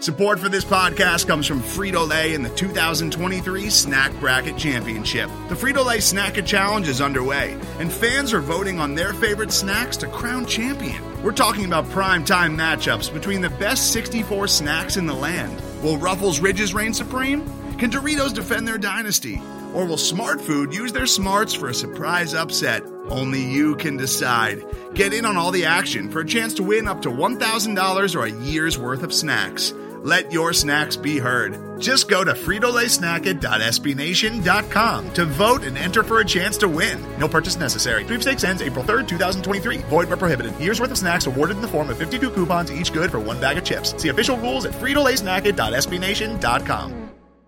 Support for this podcast comes from Frito-Lay and the 2023 Snack Bracket Championship. The Frito-Lay Snack-It Challenge is underway, and fans are voting on their favorite snacks to crown champion. We're talking about prime-time matchups between the best 64 snacks in the land. Will Ruffles Ridges reign supreme? Can Doritos defend their dynasty? Or will Smart Food use their smarts for a surprise upset? Only you can decide. Get in on all the action for a chance to win up to $1,000 or a year's worth of snacks. Let your snacks be heard. Just go to fritolaysnacket.sbnation.com to vote and enter for a chance to win. No purchase necessary. Sweepstakes ends April 3rd, 2023. Void where prohibited. Year's worth of snacks awarded in the form of 52 coupons, each good for one bag of chips. See official rules at fritolaysnacket.sbnation.com.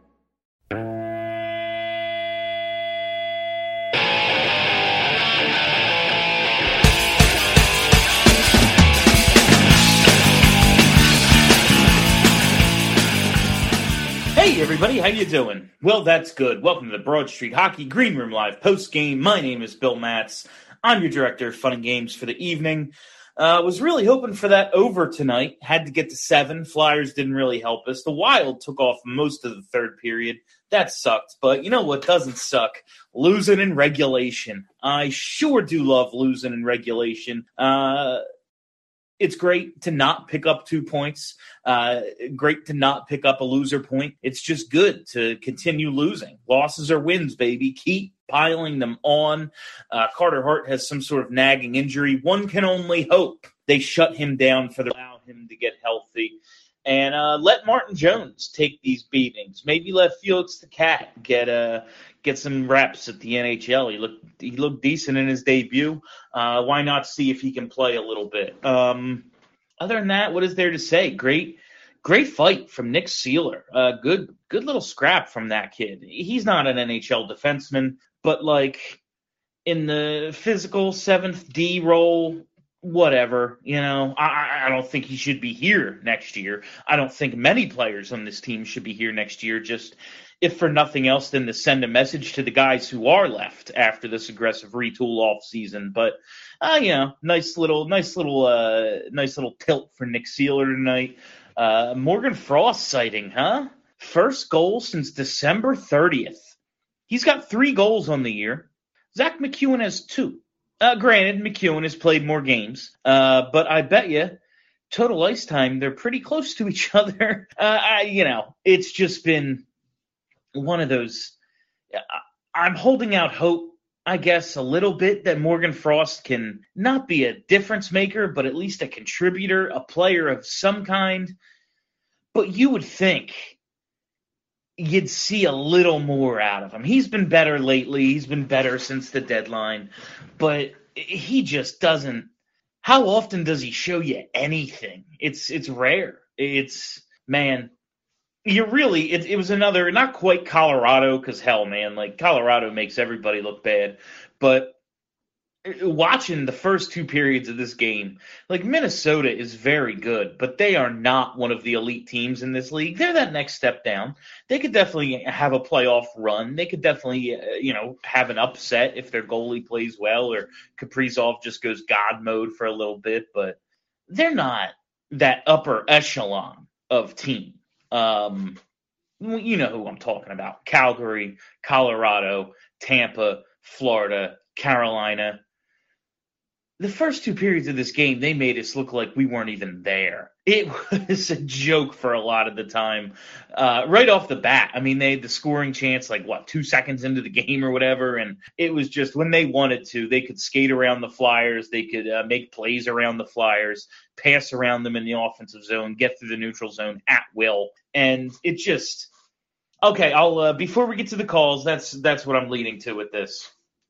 Hey everybody, how you doing? Well, that's good. Welcome to the Broad Street Hockey Green Room Live post-game. My name is Bill Matz. I'm your director of fun and games for the evening. Was really hoping for that over tonight. Had to get to 7. Flyers didn't really help us. The Wild took off most of the third period. That sucked. But you know what doesn't suck? Losing in regulation. I sure do love losing in regulation. It's great to not pick up 2 points. Great to not pick up a loser point. It's just good to continue losing. Losses are wins, baby. Keep piling them on. Carter Hart has some sort of nagging injury. One can only hope they shut him down for allow him to get healthy. And let Martin Jones take these beatings. Maybe let Felix the Cat get some reps at the NHL. He looked decent in his debut. Why not see if he can play a little bit? Other than that, what is there to say? Great fight from Nick Seeler. Good little scrap from that kid. He's not an NHL defenseman, but like in the physical 7th D role, whatever, I don't think he should be here next year. I don't think many players on this team should be here next year, just if for nothing else than to send a message to the guys who are left after this aggressive retool off season. But, nice little tilt for Nick Seeler tonight. Morgan Frost sighting, huh? First goal since December 30th. He's got 3 goals on the year. Zach McEwen has 2. Granted, McEwen has played more games, but I bet you total ice time, they're pretty close to each other. It's just been one of those. I'm holding out hope, I guess, a little bit that Morgan Frost can not be a difference maker, but at least a contributor, a player of some kind. But you would think you'd see a little more out of him. He's been better lately. He's been better since the deadline, but he just doesn't. How often does he show you anything? It's rare. Man, it was another, not quite Colorado, because hell, man, like Colorado makes everybody look bad, but watching the first 2 periods of this game, like Minnesota is very good, but they are not one of the elite teams in this league. They're that next step down. They could definitely have a playoff run. They could definitely, have an upset if their goalie plays well or Kaprizov just goes God mode for a little bit, but they're not that upper echelon of team. You know who I'm talking about. Calgary, Colorado, Tampa, Florida, Carolina. The first 2 periods of this game, they made us look like we weren't even there. It was a joke for a lot of the time. Right off the bat, I mean, they had the scoring chance 2 seconds into the game or whatever, and it was just when they wanted to, they could skate around the Flyers, they could make plays around the Flyers, pass around them in the offensive zone, get through the neutral zone at will, and it just okay. I'll before we get to the calls, that's what I'm leading to with this.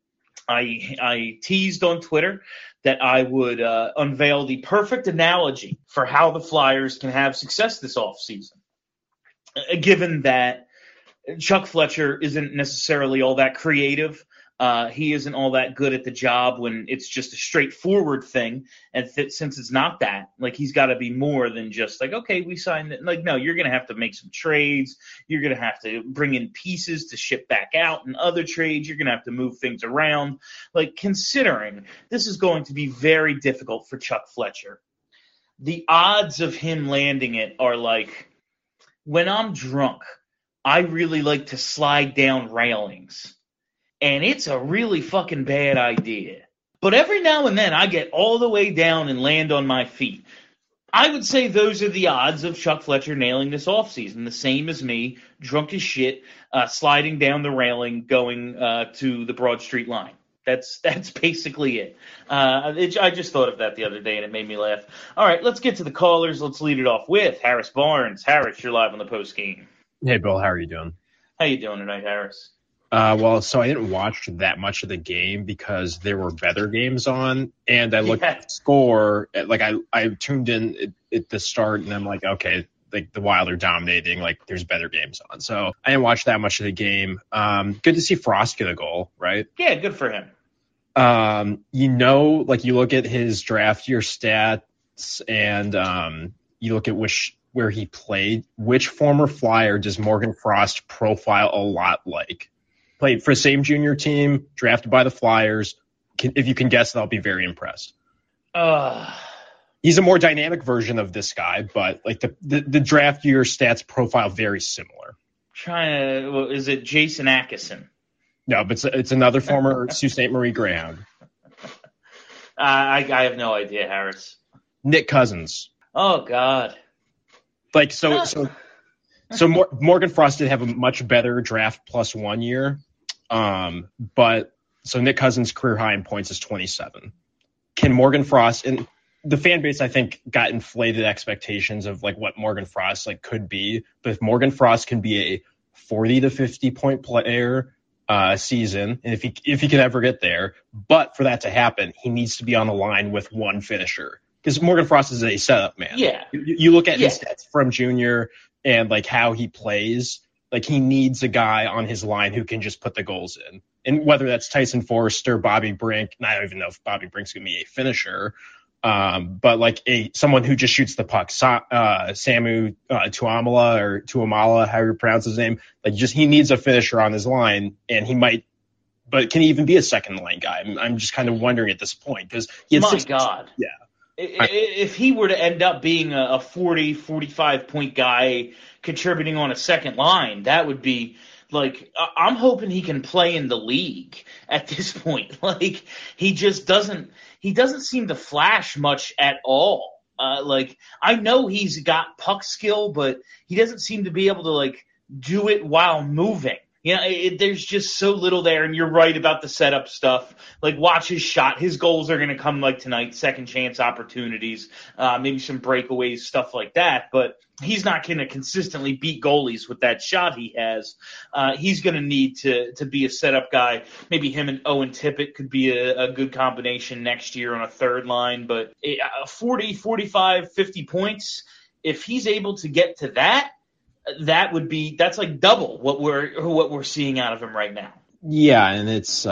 I teased on Twitter that I would unveil the perfect analogy for how the Flyers can have success this offseason. Given that Chuck Fletcher isn't necessarily all that creative, he isn't all that good at the job when it's just a straightforward thing. And since it's not that, he's got to be more than just okay, we signed it. No, you're going to have to make some trades. You're going to have to bring in pieces to ship back out and other trades. You're going to have to move things around. Considering this is going to be very difficult for Chuck Fletcher, the odds of him landing it are when I'm drunk, I really like to slide down railings. And it's a really fucking bad idea. But every now and then I get all the way down and land on my feet. I would say those are the odds of Chuck Fletcher nailing this offseason. The same as me, drunk as shit, sliding down the railing, going to the Broad Street line. That's basically it. I just thought of that the other day, and it made me laugh. All right, let's get to the callers. Let's lead it off with Harris Barnes. Harris, you're live on the post game. Hey, Bill, how are you doing? How you doing tonight, Harris? So I didn't watch that much of the game because there were better games on, and I looked at the score. Like I tuned in at the start, and I'm like, okay, like the Wild are dominating. Like there's better games on, so I didn't watch that much of the game. Good to see Frost get a goal, right? Yeah, good for him. Like you look at his draft year stats, and you look at where he played. Which former Flyer does Morgan Frost profile a lot like? Played for the same junior team, drafted by the Flyers. If you can guess, I'll be very impressed. He's a more dynamic version of this guy, but like the draft year stats profile very similar. Is it Jason Atkinson? No, but it's another former Sault Ste. Marie Greyhound. I have no idea, Harris. Nick Cousins. Oh God. Morgan Frost did have a much better draft plus 1 year. But Nick Cousins' career high in points is 27. Can Morgan Frost, and the fan base, I think, got inflated expectations of like what Morgan Frost like could be. But if Morgan Frost can be a 40 to 50 point player season, and if he can ever get there, but for that to happen, he needs to be on the line with one finisher. Because Morgan Frost is a setup man. Yeah. You look at his stats from junior and like how he plays, like he needs a guy on his line who can just put the goals in. And whether that's Tyson Forrester, Bobby Brink, and I don't even know if Bobby Brink's going to be a finisher, but like someone who just shoots the puck. Samu Tuamala or Tuamala, however you pronounce his name, like he needs a finisher on his line, and he might, but can he even be a second line guy? I'm just kind of wondering at this point because he had God. Yeah. If he were to end up being a 40, 45 point guy contributing on a second line, that would be like, I'm hoping he can play in the league at this point. Like he doesn't seem to flash much at all. I know he's got puck skill, but he doesn't seem to be able to like do it while moving. There's just so little there, and you're right about the setup stuff. Like, watch his shot. His goals are going to come like tonight, second chance opportunities, maybe some breakaways, stuff like that. But he's not going to consistently beat goalies with that shot he has. He's going to need to be a setup guy. Maybe him and Owen Tippett could be a good combination next year on a third line. But 40, 45, 50 points, if he's able to get to that, that's like double what we're seeing out of him right now. Yeah, and it's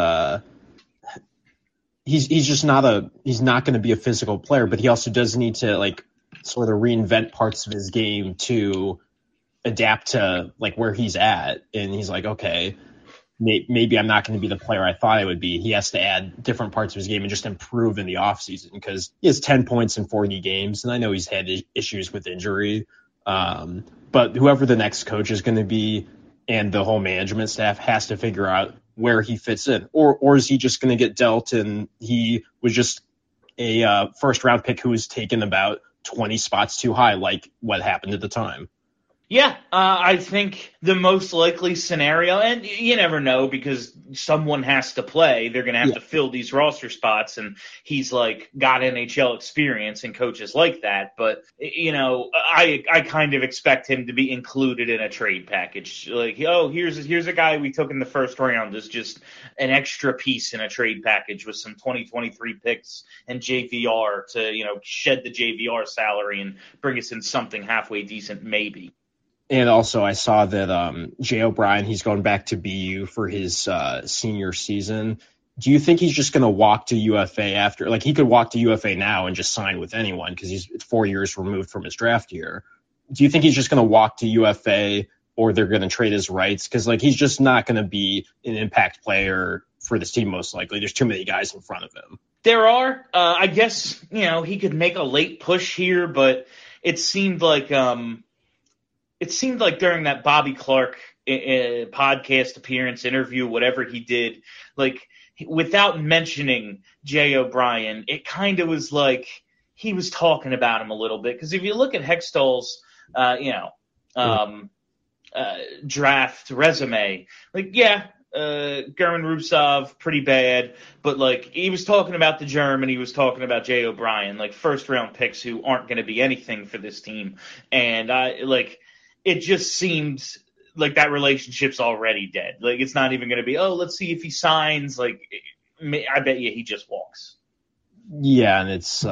he's not going to be a physical player, but he also does need to like sort of reinvent parts of his game to adapt to like where he's at. And he's like, okay, maybe I'm not going to be the player I thought I would be. He has to add different parts of his game and just improve in the offseason because he has 10 points in 40 games, and I know he's had issues with injury. But whoever the next coach is going to be and the whole management staff has to figure out where he fits in. Or is he just going to get dealt and he was just a first round pick who was taken about 20 spots too high, like what happened at the time? Yeah, I think the most likely scenario, and you never know because someone has to play. They're going to have to fill these roster spots, and he's like got NHL experience and coaches like that. But, I kind of expect him to be included in a trade package. Like, here's a guy we took in the first round as just an extra piece in a trade package with some 2023 picks and JVR to, shed the JVR salary and bring us in something halfway decent maybe. And also, I saw that Jay O'Brien, he's going back to BU for his senior season. Do you think he's just going to walk to UFA after? Like, he could walk to UFA now and just sign with anyone because he's 4 years removed from his draft year. Do you think he's just going to walk to UFA or they're going to trade his rights? Because, like, he's just not going to be an impact player for this team, most likely. There's too many guys in front of him. There are. I guess, he could make a late push here, but it seemed like it seemed like during that Bobby Clark podcast appearance, interview, whatever he did, like without mentioning Jay O'Brien, it kind of was like he was talking about him a little bit. Because if you look at Hextall's, draft resume, like, German Rubtsov, pretty bad, but like he was talking about the German, he was talking about Jay O'Brien, like first round picks who aren't going to be anything for this team, and it just seemed like that relationship's already dead. Like it's not even going to be, let's see if he signs. Like I bet you he just walks. Yeah, and it's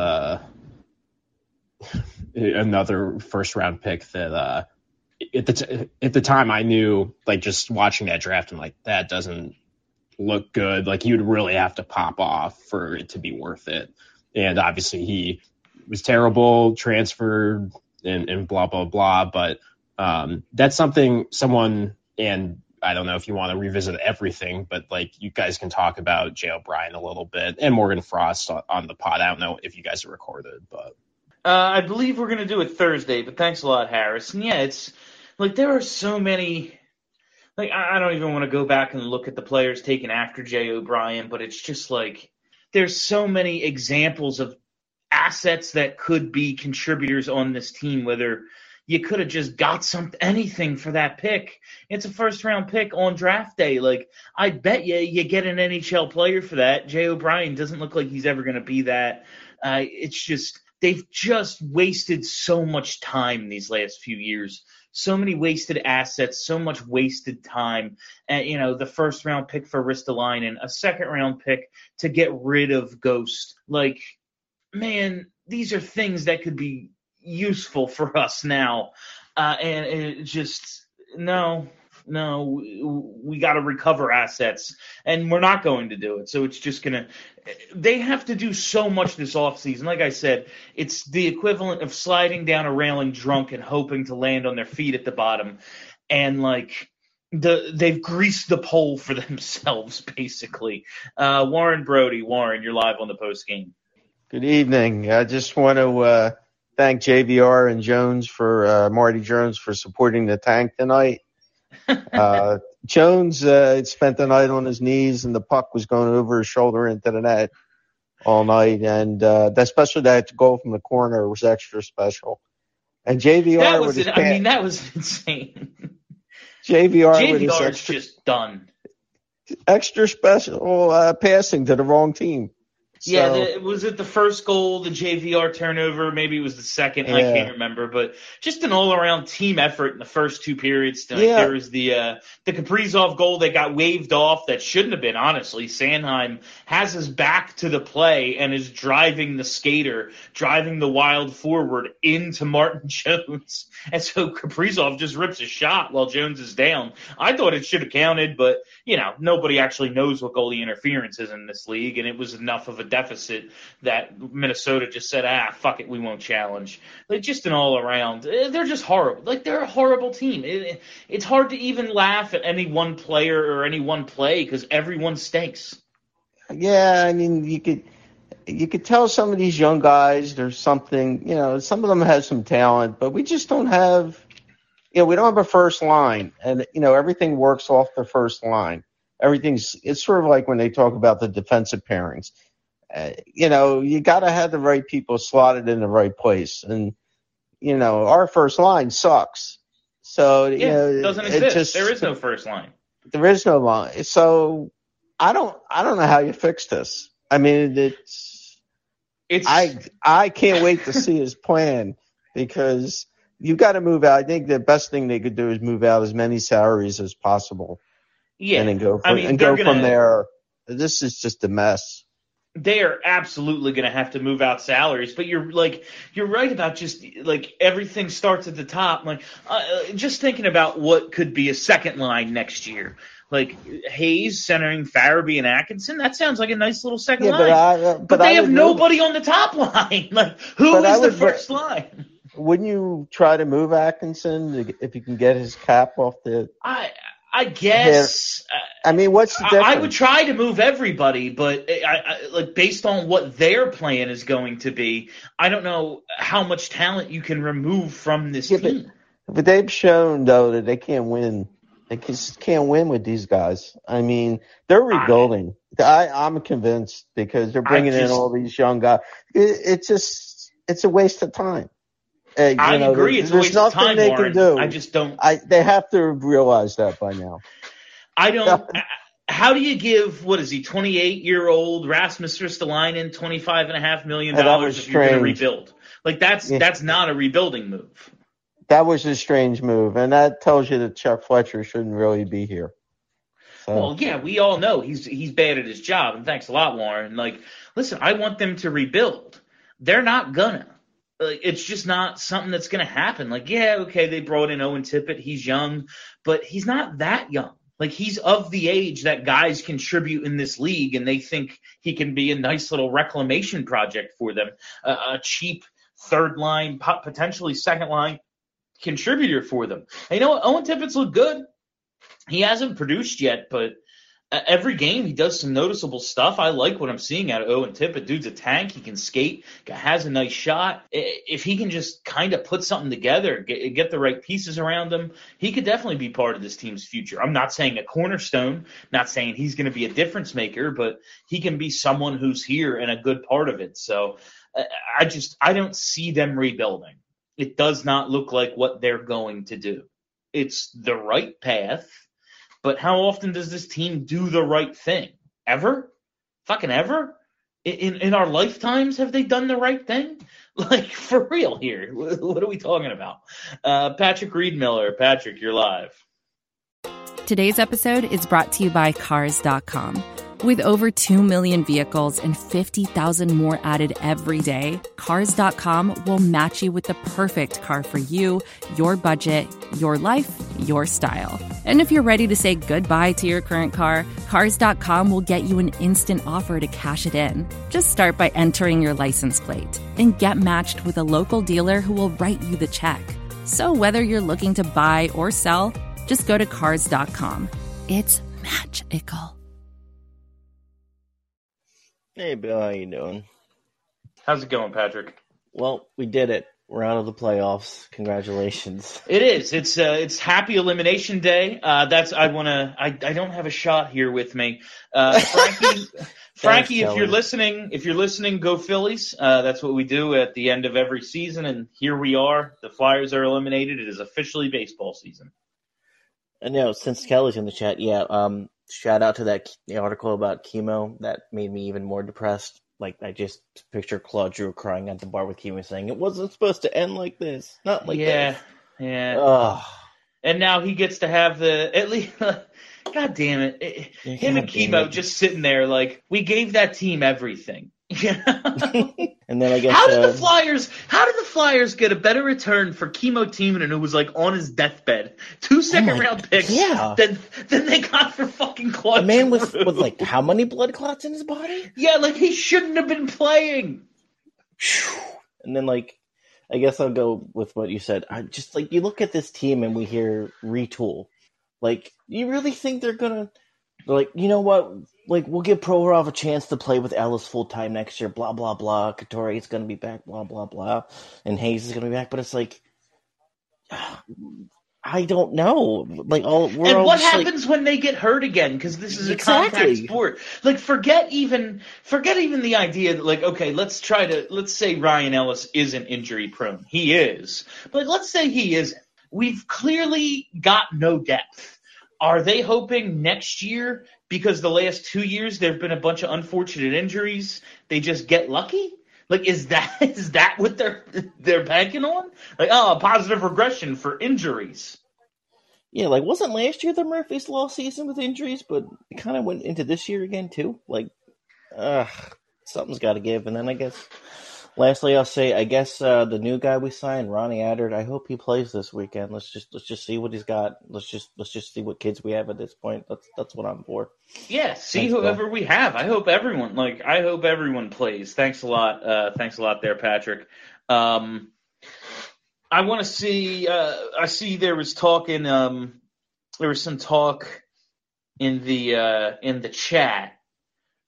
another first round pick that at the time I knew, like just watching that draft, and like that doesn't look good. Like you'd really have to pop off for it to be worth it. And obviously he was terrible, transferred, and blah blah blah. But that's someone, and I don't know if you want to revisit everything, but like you guys can talk about Jay O'Brien a little bit and Morgan Frost on the pod. I don't know if you guys are recorded, but I believe we're going to do it Thursday, but thanks a lot, Harris. And yeah, it's like there are so many, like I don't even want to go back and look at the players taken after Jay O'Brien, but it's just like there's so many examples of assets that could be contributors on this team, whether you could have just got anything for that pick. It's a first-round pick on draft day. Like, I bet you get an NHL player for that. Jay O'Brien doesn't look like he's ever going to be that. It's just they've just wasted so much time these last few years. So many wasted assets, so much wasted time. And, the first-round pick for Ristolainen, a second-round pick to get rid of Ghost. Like, man, these are things that could be useful for us now, and it just no, we got to recover assets, and we're not going to do it. So it's just they have to do so much this offseason. Like I said, it's the equivalent of sliding down a railing drunk and hoping to land on their feet at the bottom, and like they've greased the pole for themselves basically. Warren Brody, you're live on the post game. Good evening. I just want to thank JVR and Jones for Marty Jones for supporting the tank tonight. Jones spent the night on his knees, and the puck was going over his shoulder into the net all night. And especially that goal from the corner was extra special. And JVR that was insane. JVR is just done. Extra special passing to the wrong team. Yeah, was it the first goal, the JVR turnover? Maybe it was the second. Yeah. I can't remember. But just an all-around team effort in the first two periods. There was the Kaprizov goal that got waved off that shouldn't have been, honestly. Sanheim has his back to the play and is driving the Wild forward into Martin Jones. And so Kaprizov just rips a shot while Jones is down. I thought it should have counted, but, nobody actually knows what goalie interference is in this league, and it was enough of a deficit that Minnesota just said, fuck it, we won't challenge. Like, just an all-around. They're just horrible. Like, they're a horrible team. It's hard to even laugh at any one player or any one play because everyone stinks. Yeah, I mean, you could tell some of these young guys there's something, some of them have some talent, but we just don't have, we don't have a first line. And, everything works off the first line. It's sort of like when they talk about the defensive pairings. You got to have the right people slotted in the right place. And, our first line sucks. So, it doesn't exist. There is no first line. There is no line. So I don't know how you fix this. I mean, I can't wait to see his plan because you got to move out. I think the best thing they could do is move out as many salaries as possible. Yeah. And then go from there. This is just a mess. They are absolutely going to have to move out salaries, but you're right about just like everything starts at the top. Like just thinking about what could be a second line next year, like Hayes centering Farabee and Atkinson. That sounds like a nice little second line. But they have nobody on the top line. Like who is the first line? Wouldn't you try to move Atkinson if you can get his cap off the? I guess. I mean, what's the difference? I would try to move everybody, but like based on what their plan is going to be, I don't know how much talent you can remove from this team. But they've shown though that they can't win. They just can't win with these guys. I mean, they're rebuilding. I'm convinced because they're bringing in all these young guys. It's a waste of time. I agree. It's a waste of time, they Warren. Can do. I just don't. They have to realize that by now. I don't. How do you give, what is he, 28-year-old Rasmus Ristolainen $25.5 million if you're going to rebuild? Like, that's not a rebuilding move. That was a strange move, and that tells you that Chuck Fletcher shouldn't really be here. So. Well, yeah, we all know he's bad at his job, and thanks a lot, Warren. Like, listen, I want them to rebuild. They're not gonna. It's just not something that's going to happen. Like, yeah, okay, they brought in Owen Tippett. He's young, but he's not that young. Like, he's of the age that guys contribute in this league, and they think he can be a nice little reclamation project for them, a cheap third line, potentially second line contributor for them. And you know what? Owen Tippett's looked good. He hasn't produced yet, but every game he does some noticeable stuff. I like what I'm seeing out of Owen Tippett. Dude's a tank. He can skate, has a nice shot. If he can just kind of put something together, get the right pieces around him, he could definitely be part of this team's future. I'm not saying a cornerstone, not saying he's going to be a difference maker, but he can be someone who's here and a good part of it. So I don't see them rebuilding. It does not look like what they're going to do. It's the right path. But how often does this team do the right thing? Ever? Fucking ever? In our lifetimes, have they done the right thing? Like, for real here. What are we talking about? Patrick Reed-Miller. Patrick, you're live. Today's episode is brought to you by Cars.com. With over 2 million vehicles and 50,000 more added every day, Cars.com will match you with the perfect car for you, your budget, your life, your style. And if you're ready to say goodbye to your current car, Cars.com will get you an instant offer to cash it in. Just start by entering your license plate and get matched with a local dealer who will write you the check. So whether you're looking to buy or sell, just go to Cars.com. It's magical. Hey, Bill, how you doing? How's it going, Patrick? Well, we did it. We're out of the playoffs. Congratulations. It is. It's happy elimination day. I don't have a shot here with me. Frankie, if you're listening, go Phillies. That's what we do at the end of every season, and here we are. The Flyers are eliminated. It is officially baseball season. And since Kelly's in the chat, shout out to that article about chemo. That made me even more depressed. Like, I just picture Claude Giroux crying at the bar with chemo saying, it wasn't supposed to end like this. Not like this. Yeah. Ugh. And now he gets to have at least, God damn it. Him and chemo just sitting there like, we gave that team everything. And then I guess how did the Flyers get a better return for Chemo Timonen, who was like on his deathbed, 2 second-round picks than they got for fucking Claude? A man with like how many blood clots in his body? Yeah, like he shouldn't have been playing. And then I guess I'll go with what you said. I just you look at this team and we hear retool. Like, you really think they're gonna you know what? We'll give Provorov a chance to play with Ellis full time next year, blah, blah, blah. Couture is going to be back, blah, blah, blah. And Hayes is going to be back. But it's I don't know. What happens when they get hurt again? Because this is a contact sport. Forget even the idea that, okay, let's say Ryan Ellis isn't injury prone. He is. But let's say he isn't. We've clearly got no depth. Are they hoping next year, because the last 2 years there have been a bunch of unfortunate injuries, they just get lucky? Is that what they're banking on? A positive regression for injuries. Yeah, wasn't last year the Murphy's Law season with injuries, but it kind of went into this year again too? Something's got to give. And then I guess, lastly, I'll say, the new guy we signed, Ronnie Attard, I hope he plays this weekend. Let's just see what he's got. Let's just see what kids we have at this point. That's what I'm for. Yeah, see whoever we have. I hope everyone plays. Thanks a lot. Thanks a lot there, Patrick. I want to see. I see there was talk there was some talk in the chat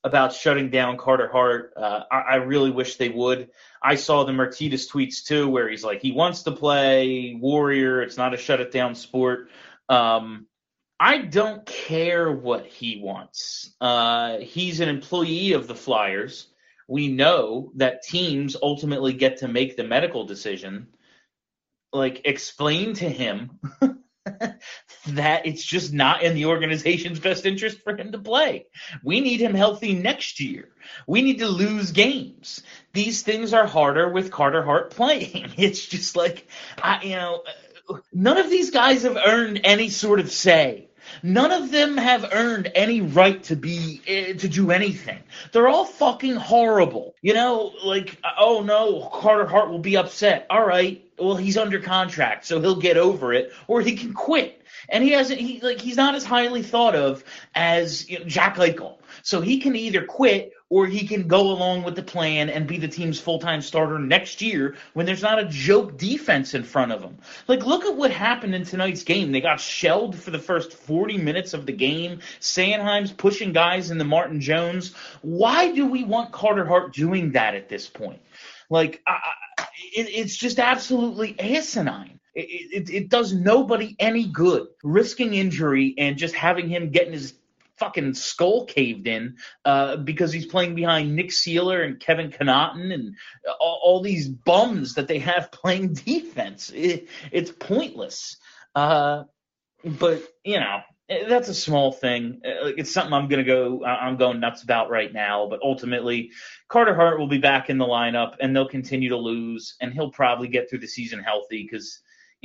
about shutting down Carter Hart. I really wish they would. I saw the Martinez tweets too, where he's like, he wants to play Warrior. It's not a shut it down sport. I don't care what he wants. He's an employee of the Flyers. We know that teams ultimately get to make the medical decision. Like, explain to him that it's just not in the organization's best interest for him to play. We need him healthy next year. We need to lose games. These things are harder with Carter Hart playing. It's just like, none of these guys have earned any sort of say. None of them have earned any right to do anything. They're all fucking horrible. Like, oh no, Carter Hart will be upset. All right, well, he's under contract, so he'll get over it, or he can quit. And he's not as highly thought of as Jack Eichel. So he can either quit or he can go along with the plan and be the team's full-time starter next year when there's not a joke defense in front of him. Like, look at what happened in tonight's game. They got shelled for the first 40 minutes of the game. Sanheim's pushing guys into Martin Jones. Why do we want Carter Hart doing that at this point? Like, it's just absolutely asinine. It does nobody any good, risking injury and just having him getting his fucking skull caved in because he's playing behind Nick Seeler and Kevin Connaughton and all these bums that they have playing defense. It's pointless. But, that's a small thing. It's something I'm going nuts about right now. But ultimately, Carter Hart will be back in the lineup, and they'll continue to lose, and he'll probably get through the season healthy because,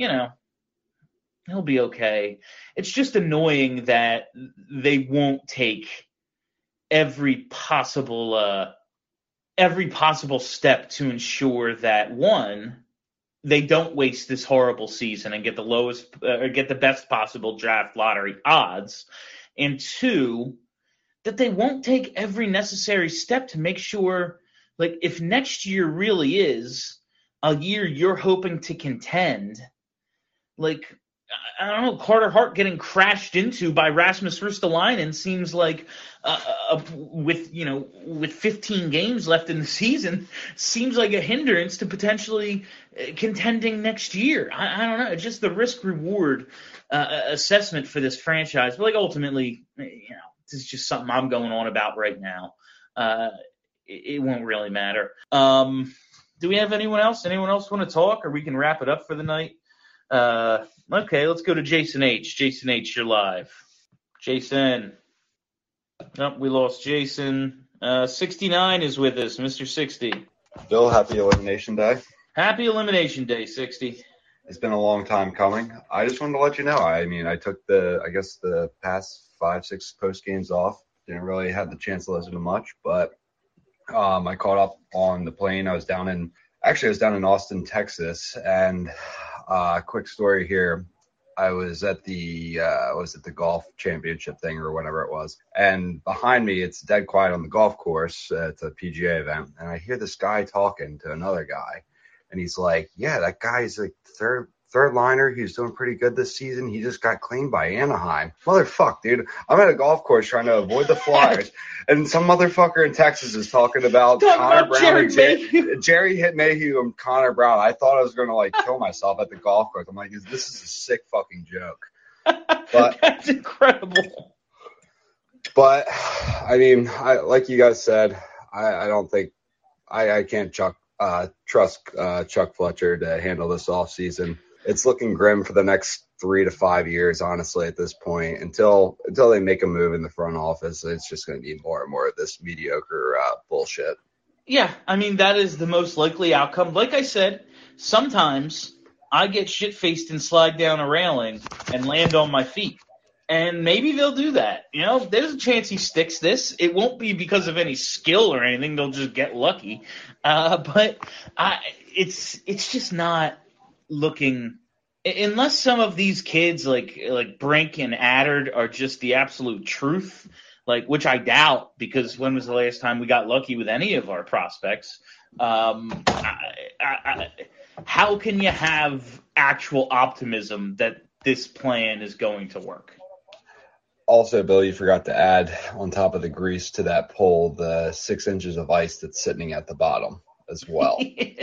he'll be okay. It's just annoying that they won't take every possible step to ensure that, one, they don't waste this horrible season and get the best possible draft lottery odds, and two, that they won't take every necessary step to make sure, like, if next year really is a year you're hoping to contend, like, I don't know, Carter Hart getting crashed into by Rasmus Ristolainen seems like, with 15 games left in the season, seems like a hindrance to potentially contending next year. I don't know. It's just the risk-reward assessment for this franchise. But, like, ultimately, this is just something I'm going on about right now. It won't really matter. Do we have anyone else? Anyone else want to talk, or we can wrap it up for the night? Okay, let's go to Jason H. Jason H., you're live. Jason. Oh, we lost Jason. 69 is with us, Mr. 60. Bill, happy Elimination Day. Happy Elimination Day, 60. It's been a long time coming. I just wanted to let you know. I mean, I took the past 5-6 post games off. Didn't really have the chance to listen to much, but I caught up on the plane. I was down in Austin, Texas, and quick story here. I was at the golf championship thing or whatever it was, and behind me it's dead quiet on the golf course. It's a PGA event, and I hear this guy talking to another guy, and he's like, "Yeah, that guy's like third liner. He's doing pretty good this season. He just got cleaned by Anaheim. Motherfuck, dude. I'm at a golf course trying to avoid the Flyers, and some motherfucker in Texas is talking about Connor Brown and Jerry Mayhew and Connor Brown. I thought I was going to kill myself at the golf course. I'm like, this is a sick fucking joke. But that's incredible. But I mean, like you guys said, I don't think I can't trust Chuck Fletcher to handle this offseason. It's looking grim for the next 3 to 5 years, honestly, at this point. Until they make a move in the front office, it's just going to be more and more of this mediocre bullshit. Yeah, I mean, that is the most likely outcome. Like I said, sometimes I get shit-faced and slide down a railing and land on my feet. And maybe they'll do that. There's a chance he sticks this. It won't be because of any skill or anything. They'll just get lucky. But it's just not looking – unless some of these kids like Brink and Adder are just the absolute truth, which I doubt, because when was the last time we got lucky with any of our prospects? How can you have actual optimism that this plan is going to work? Also, Bill, you forgot to add on top of the grease to that pole the 6 inches of ice that's sitting at the bottom as well.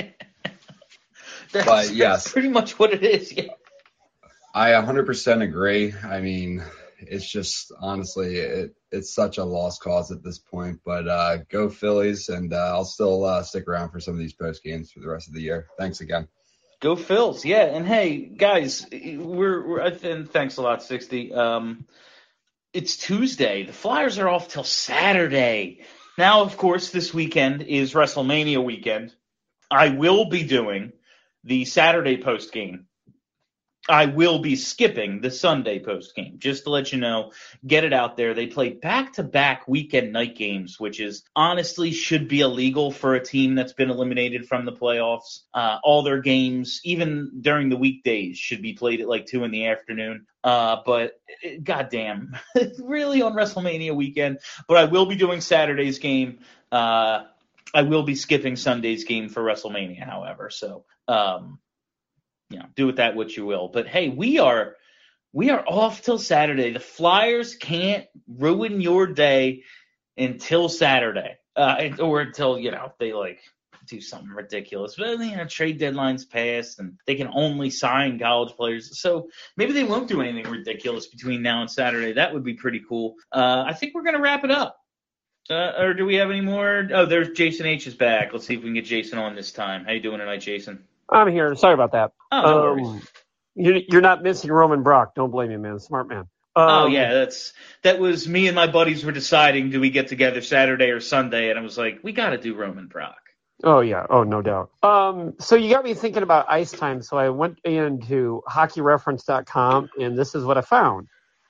That's yes, pretty much what it is. Yeah. I 100% agree. I mean, it's just honestly, it's such a lost cause at this point. But go Phillies, and I'll still stick around for some of these post games for the rest of the year. Thanks again. Go Phils, yeah. And hey, guys, and thanks a lot, 60. It's Tuesday. The Flyers are off till Saturday. Now, of course, this weekend is WrestleMania weekend. I will be doing the Saturday post game. I will be skipping the Sunday post game, just to let you know, get it out there. They play back-to-back weekend night games, which is honestly should be illegal for a team that's been eliminated from the playoffs. All their games, even during the weekdays, should be played at like 2 in the afternoon. But goddamn, really on WrestleMania weekend. But I will be doing Saturday's game. I will be skipping Sunday's game for WrestleMania, however. So, do with that what you will. But hey, we are off till Saturday. The Flyers can't ruin your day until Saturday, or until they do something ridiculous. But trade deadlines passed, and they can only sign college players. So maybe they won't do anything ridiculous between now and Saturday. That would be pretty cool. I think we're gonna wrap it up. Or do we have any more? Oh, there's Jason H is back. Let's see if we can get Jason on this time. How you doing tonight, Jason? I'm here. Sorry about that. Oh, no worries. You're not missing Roman Brock. Don't blame me, man. Smart man. That was me and my buddies were deciding, do we get together Saturday or Sunday? And I was like, we got to do Roman Brock. Oh, yeah. Oh, no doubt. So you got me thinking about ice time. So I went into hockeyreference.com, and this is what I found.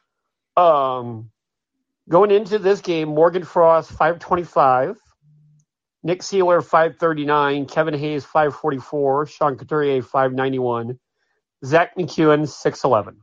Going into this game, Morgan Frost, 525. Nick Seeler, 539. Kevin Hayes, 544. Sean Couturier, 591. Zach McEwen, 611.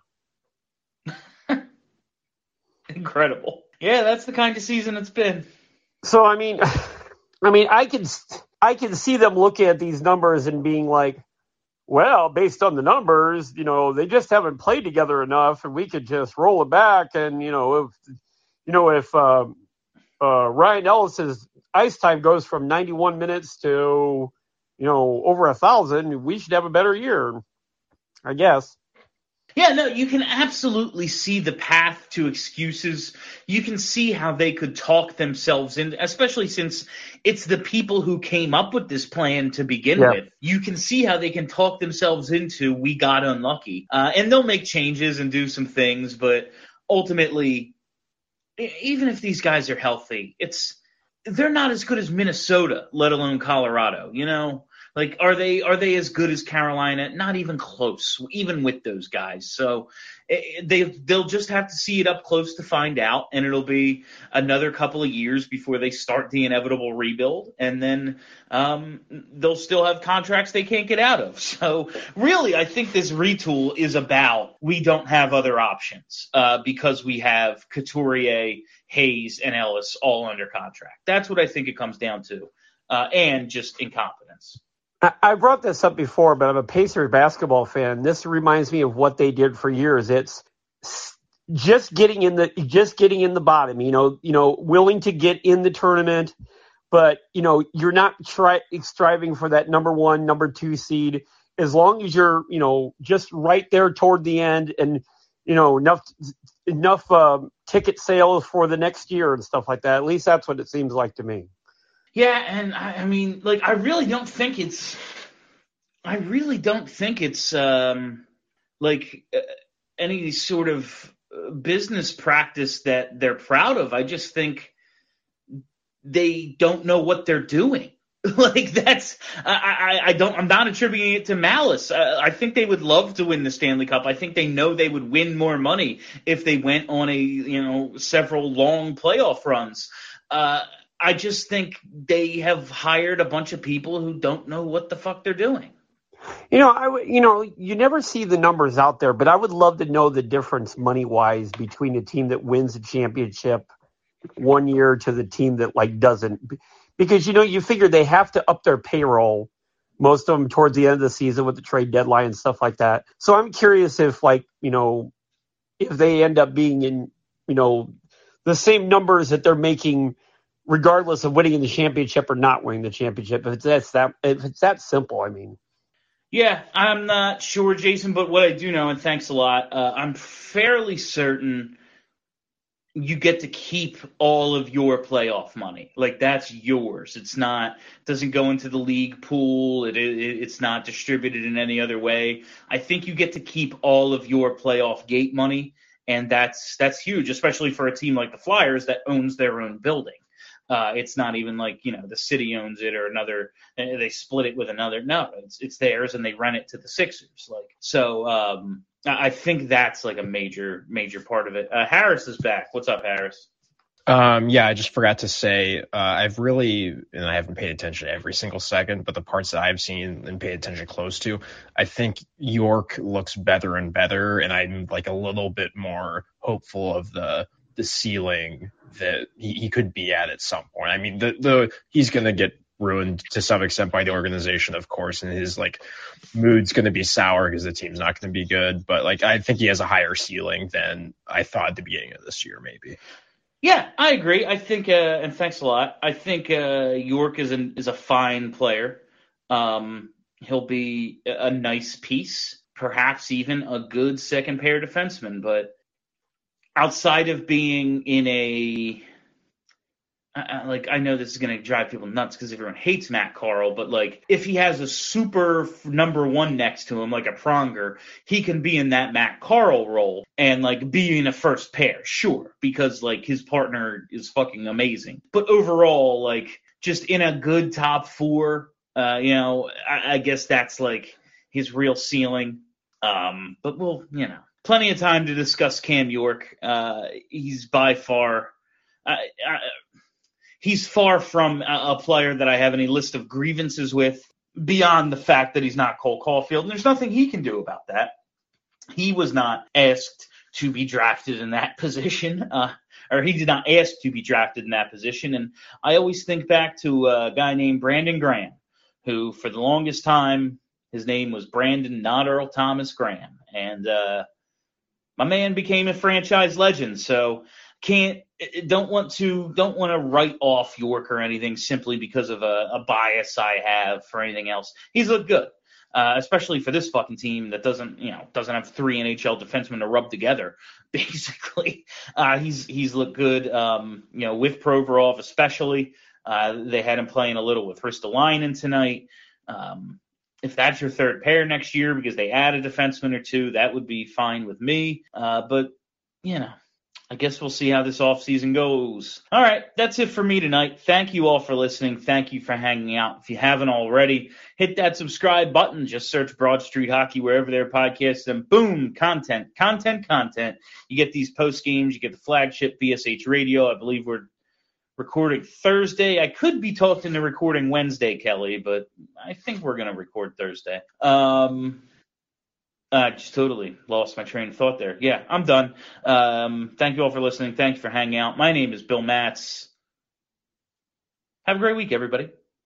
Incredible. Yeah, that's the kind of season it's been. So, I mean, I can see them looking at these numbers and being like, well, based on the numbers, they just haven't played together enough, and we could just roll it back. And, if Ryan Ellis's ice time goes from 91 minutes to, over 1,000, we should have a better year, I guess. Yeah, no, you can absolutely see the path to excuses. You can see how they could talk themselves in, especially since it's the people who came up with this plan to begin with. You can see how they can talk themselves into, we got unlucky. And they'll make changes and do some things, but ultimately, even if these guys are healthy, they're not as good as Minnesota, let alone Colorado, Like, are they as good as Carolina? Not even close, even with those guys. So they'll just have to see it up close to find out, and it'll be another couple of years before they start the inevitable rebuild, and then they'll still have contracts they can't get out of. So really, I think this retool is about we don't have other options because we have Couturier, Hayes, and Ellis all under contract. That's what I think it comes down to, and just incompetence. I brought this up before, but I'm a Pacers basketball fan. This reminds me of what they did for years. It's just getting in the bottom, willing to get in the tournament, but you're not striving for that number 1, number 2 seed. As long as you're, just right there toward the end, and enough ticket sales for the next year and stuff like that. At least that's what it seems like to me. Yeah, and I mean, I really don't think it's any sort of business practice that they're proud of. I just think they don't know what they're doing. I'm not attributing it to malice. I think they would love to win the Stanley Cup. I think they know they would win more money if they went on several long playoff runs. I just think they have hired a bunch of people who don't know what the fuck they're doing. You never see the numbers out there, but I would love to know the difference money-wise between a team that wins a championship one year to the team that doesn't. Because, you figure they have to up their payroll, most of them towards the end of the season with the trade deadline and stuff like that. So I'm curious if if they end up being in the same numbers that they're making regardless of winning the championship or not winning the championship. If it's that simple, I mean. Yeah, I'm not sure, Jason, but what I do know, and thanks a lot, I'm fairly certain you get to keep all of your playoff money. Like, that's yours. It doesn't go into the league pool. It's not distributed in any other way. I think you get to keep all of your playoff gate money, and that's huge, especially for a team like the Flyers that owns their own building. It's not even like, the city owns it or they split it with another. No, it's theirs and they rent it to the Sixers. I think that's like a major, major part of it. Harris is back. What's up, Harris? Yeah, I just forgot to say, I haven't paid attention to every single second, but the parts that I've seen and paid attention close to, I think York looks better and better, and I'm like a little bit more hopeful of the ceiling that he could be at some point. I mean, he's going to get ruined to some extent by the organization, of course, and his mood's going to be sour because the team's not going to be good. But I think he has a higher ceiling than I thought at the beginning of this year, maybe. Yeah, I agree. I think, and thanks a lot. I think York is a fine player. He'll be a nice piece, perhaps even a good second pair defenseman, but outside of being in I know this is going to drive people nuts because everyone hates Matt Carle, but if he has a super number one next to him, like a Pronger, he can be in that Matt Carle role and be in a first pair, sure, because his partner is fucking amazing. But overall, just in a good top four, I guess that's his real ceiling. But we'll, plenty of time to discuss Cam York. He's by far, he's far from a player that I have any list of grievances with beyond the fact that he's not Cole Caulfield. And there's nothing he can do about that. He was not asked to be drafted in that position, or he did not ask to be drafted in that position. And I always think back to a guy named Brandon Graham, who for the longest time, his name was Brandon Not Earl Thomas Graham. And my man became a franchise legend. So don't want to write off York or anything simply because of a bias I have for anything else. He's looked good, especially for this fucking team that doesn't have three NHL defensemen to rub together. Basically, he's looked good. With Provorov especially, they had him playing a little with Ristolainen tonight. If that's your third pair next year because they add a defenseman or two, that would be fine with me. But I guess we'll see how this offseason goes. All right, that's it for me tonight. Thank you all for listening. Thank you for hanging out. If you haven't already, hit that subscribe button. Just search Broad Street Hockey wherever there are podcasts, and boom, content. You get these post games. You get the flagship BSH Radio. I believe we're recording Thursday. I could be talked into recording Wednesday, Kelly, but I think we're going to record Thursday. Just totally lost my train of thought there. Yeah, I'm done. Thank you all for listening. Thank you for hanging out. My name is Bill Matz. Have a great week, everybody.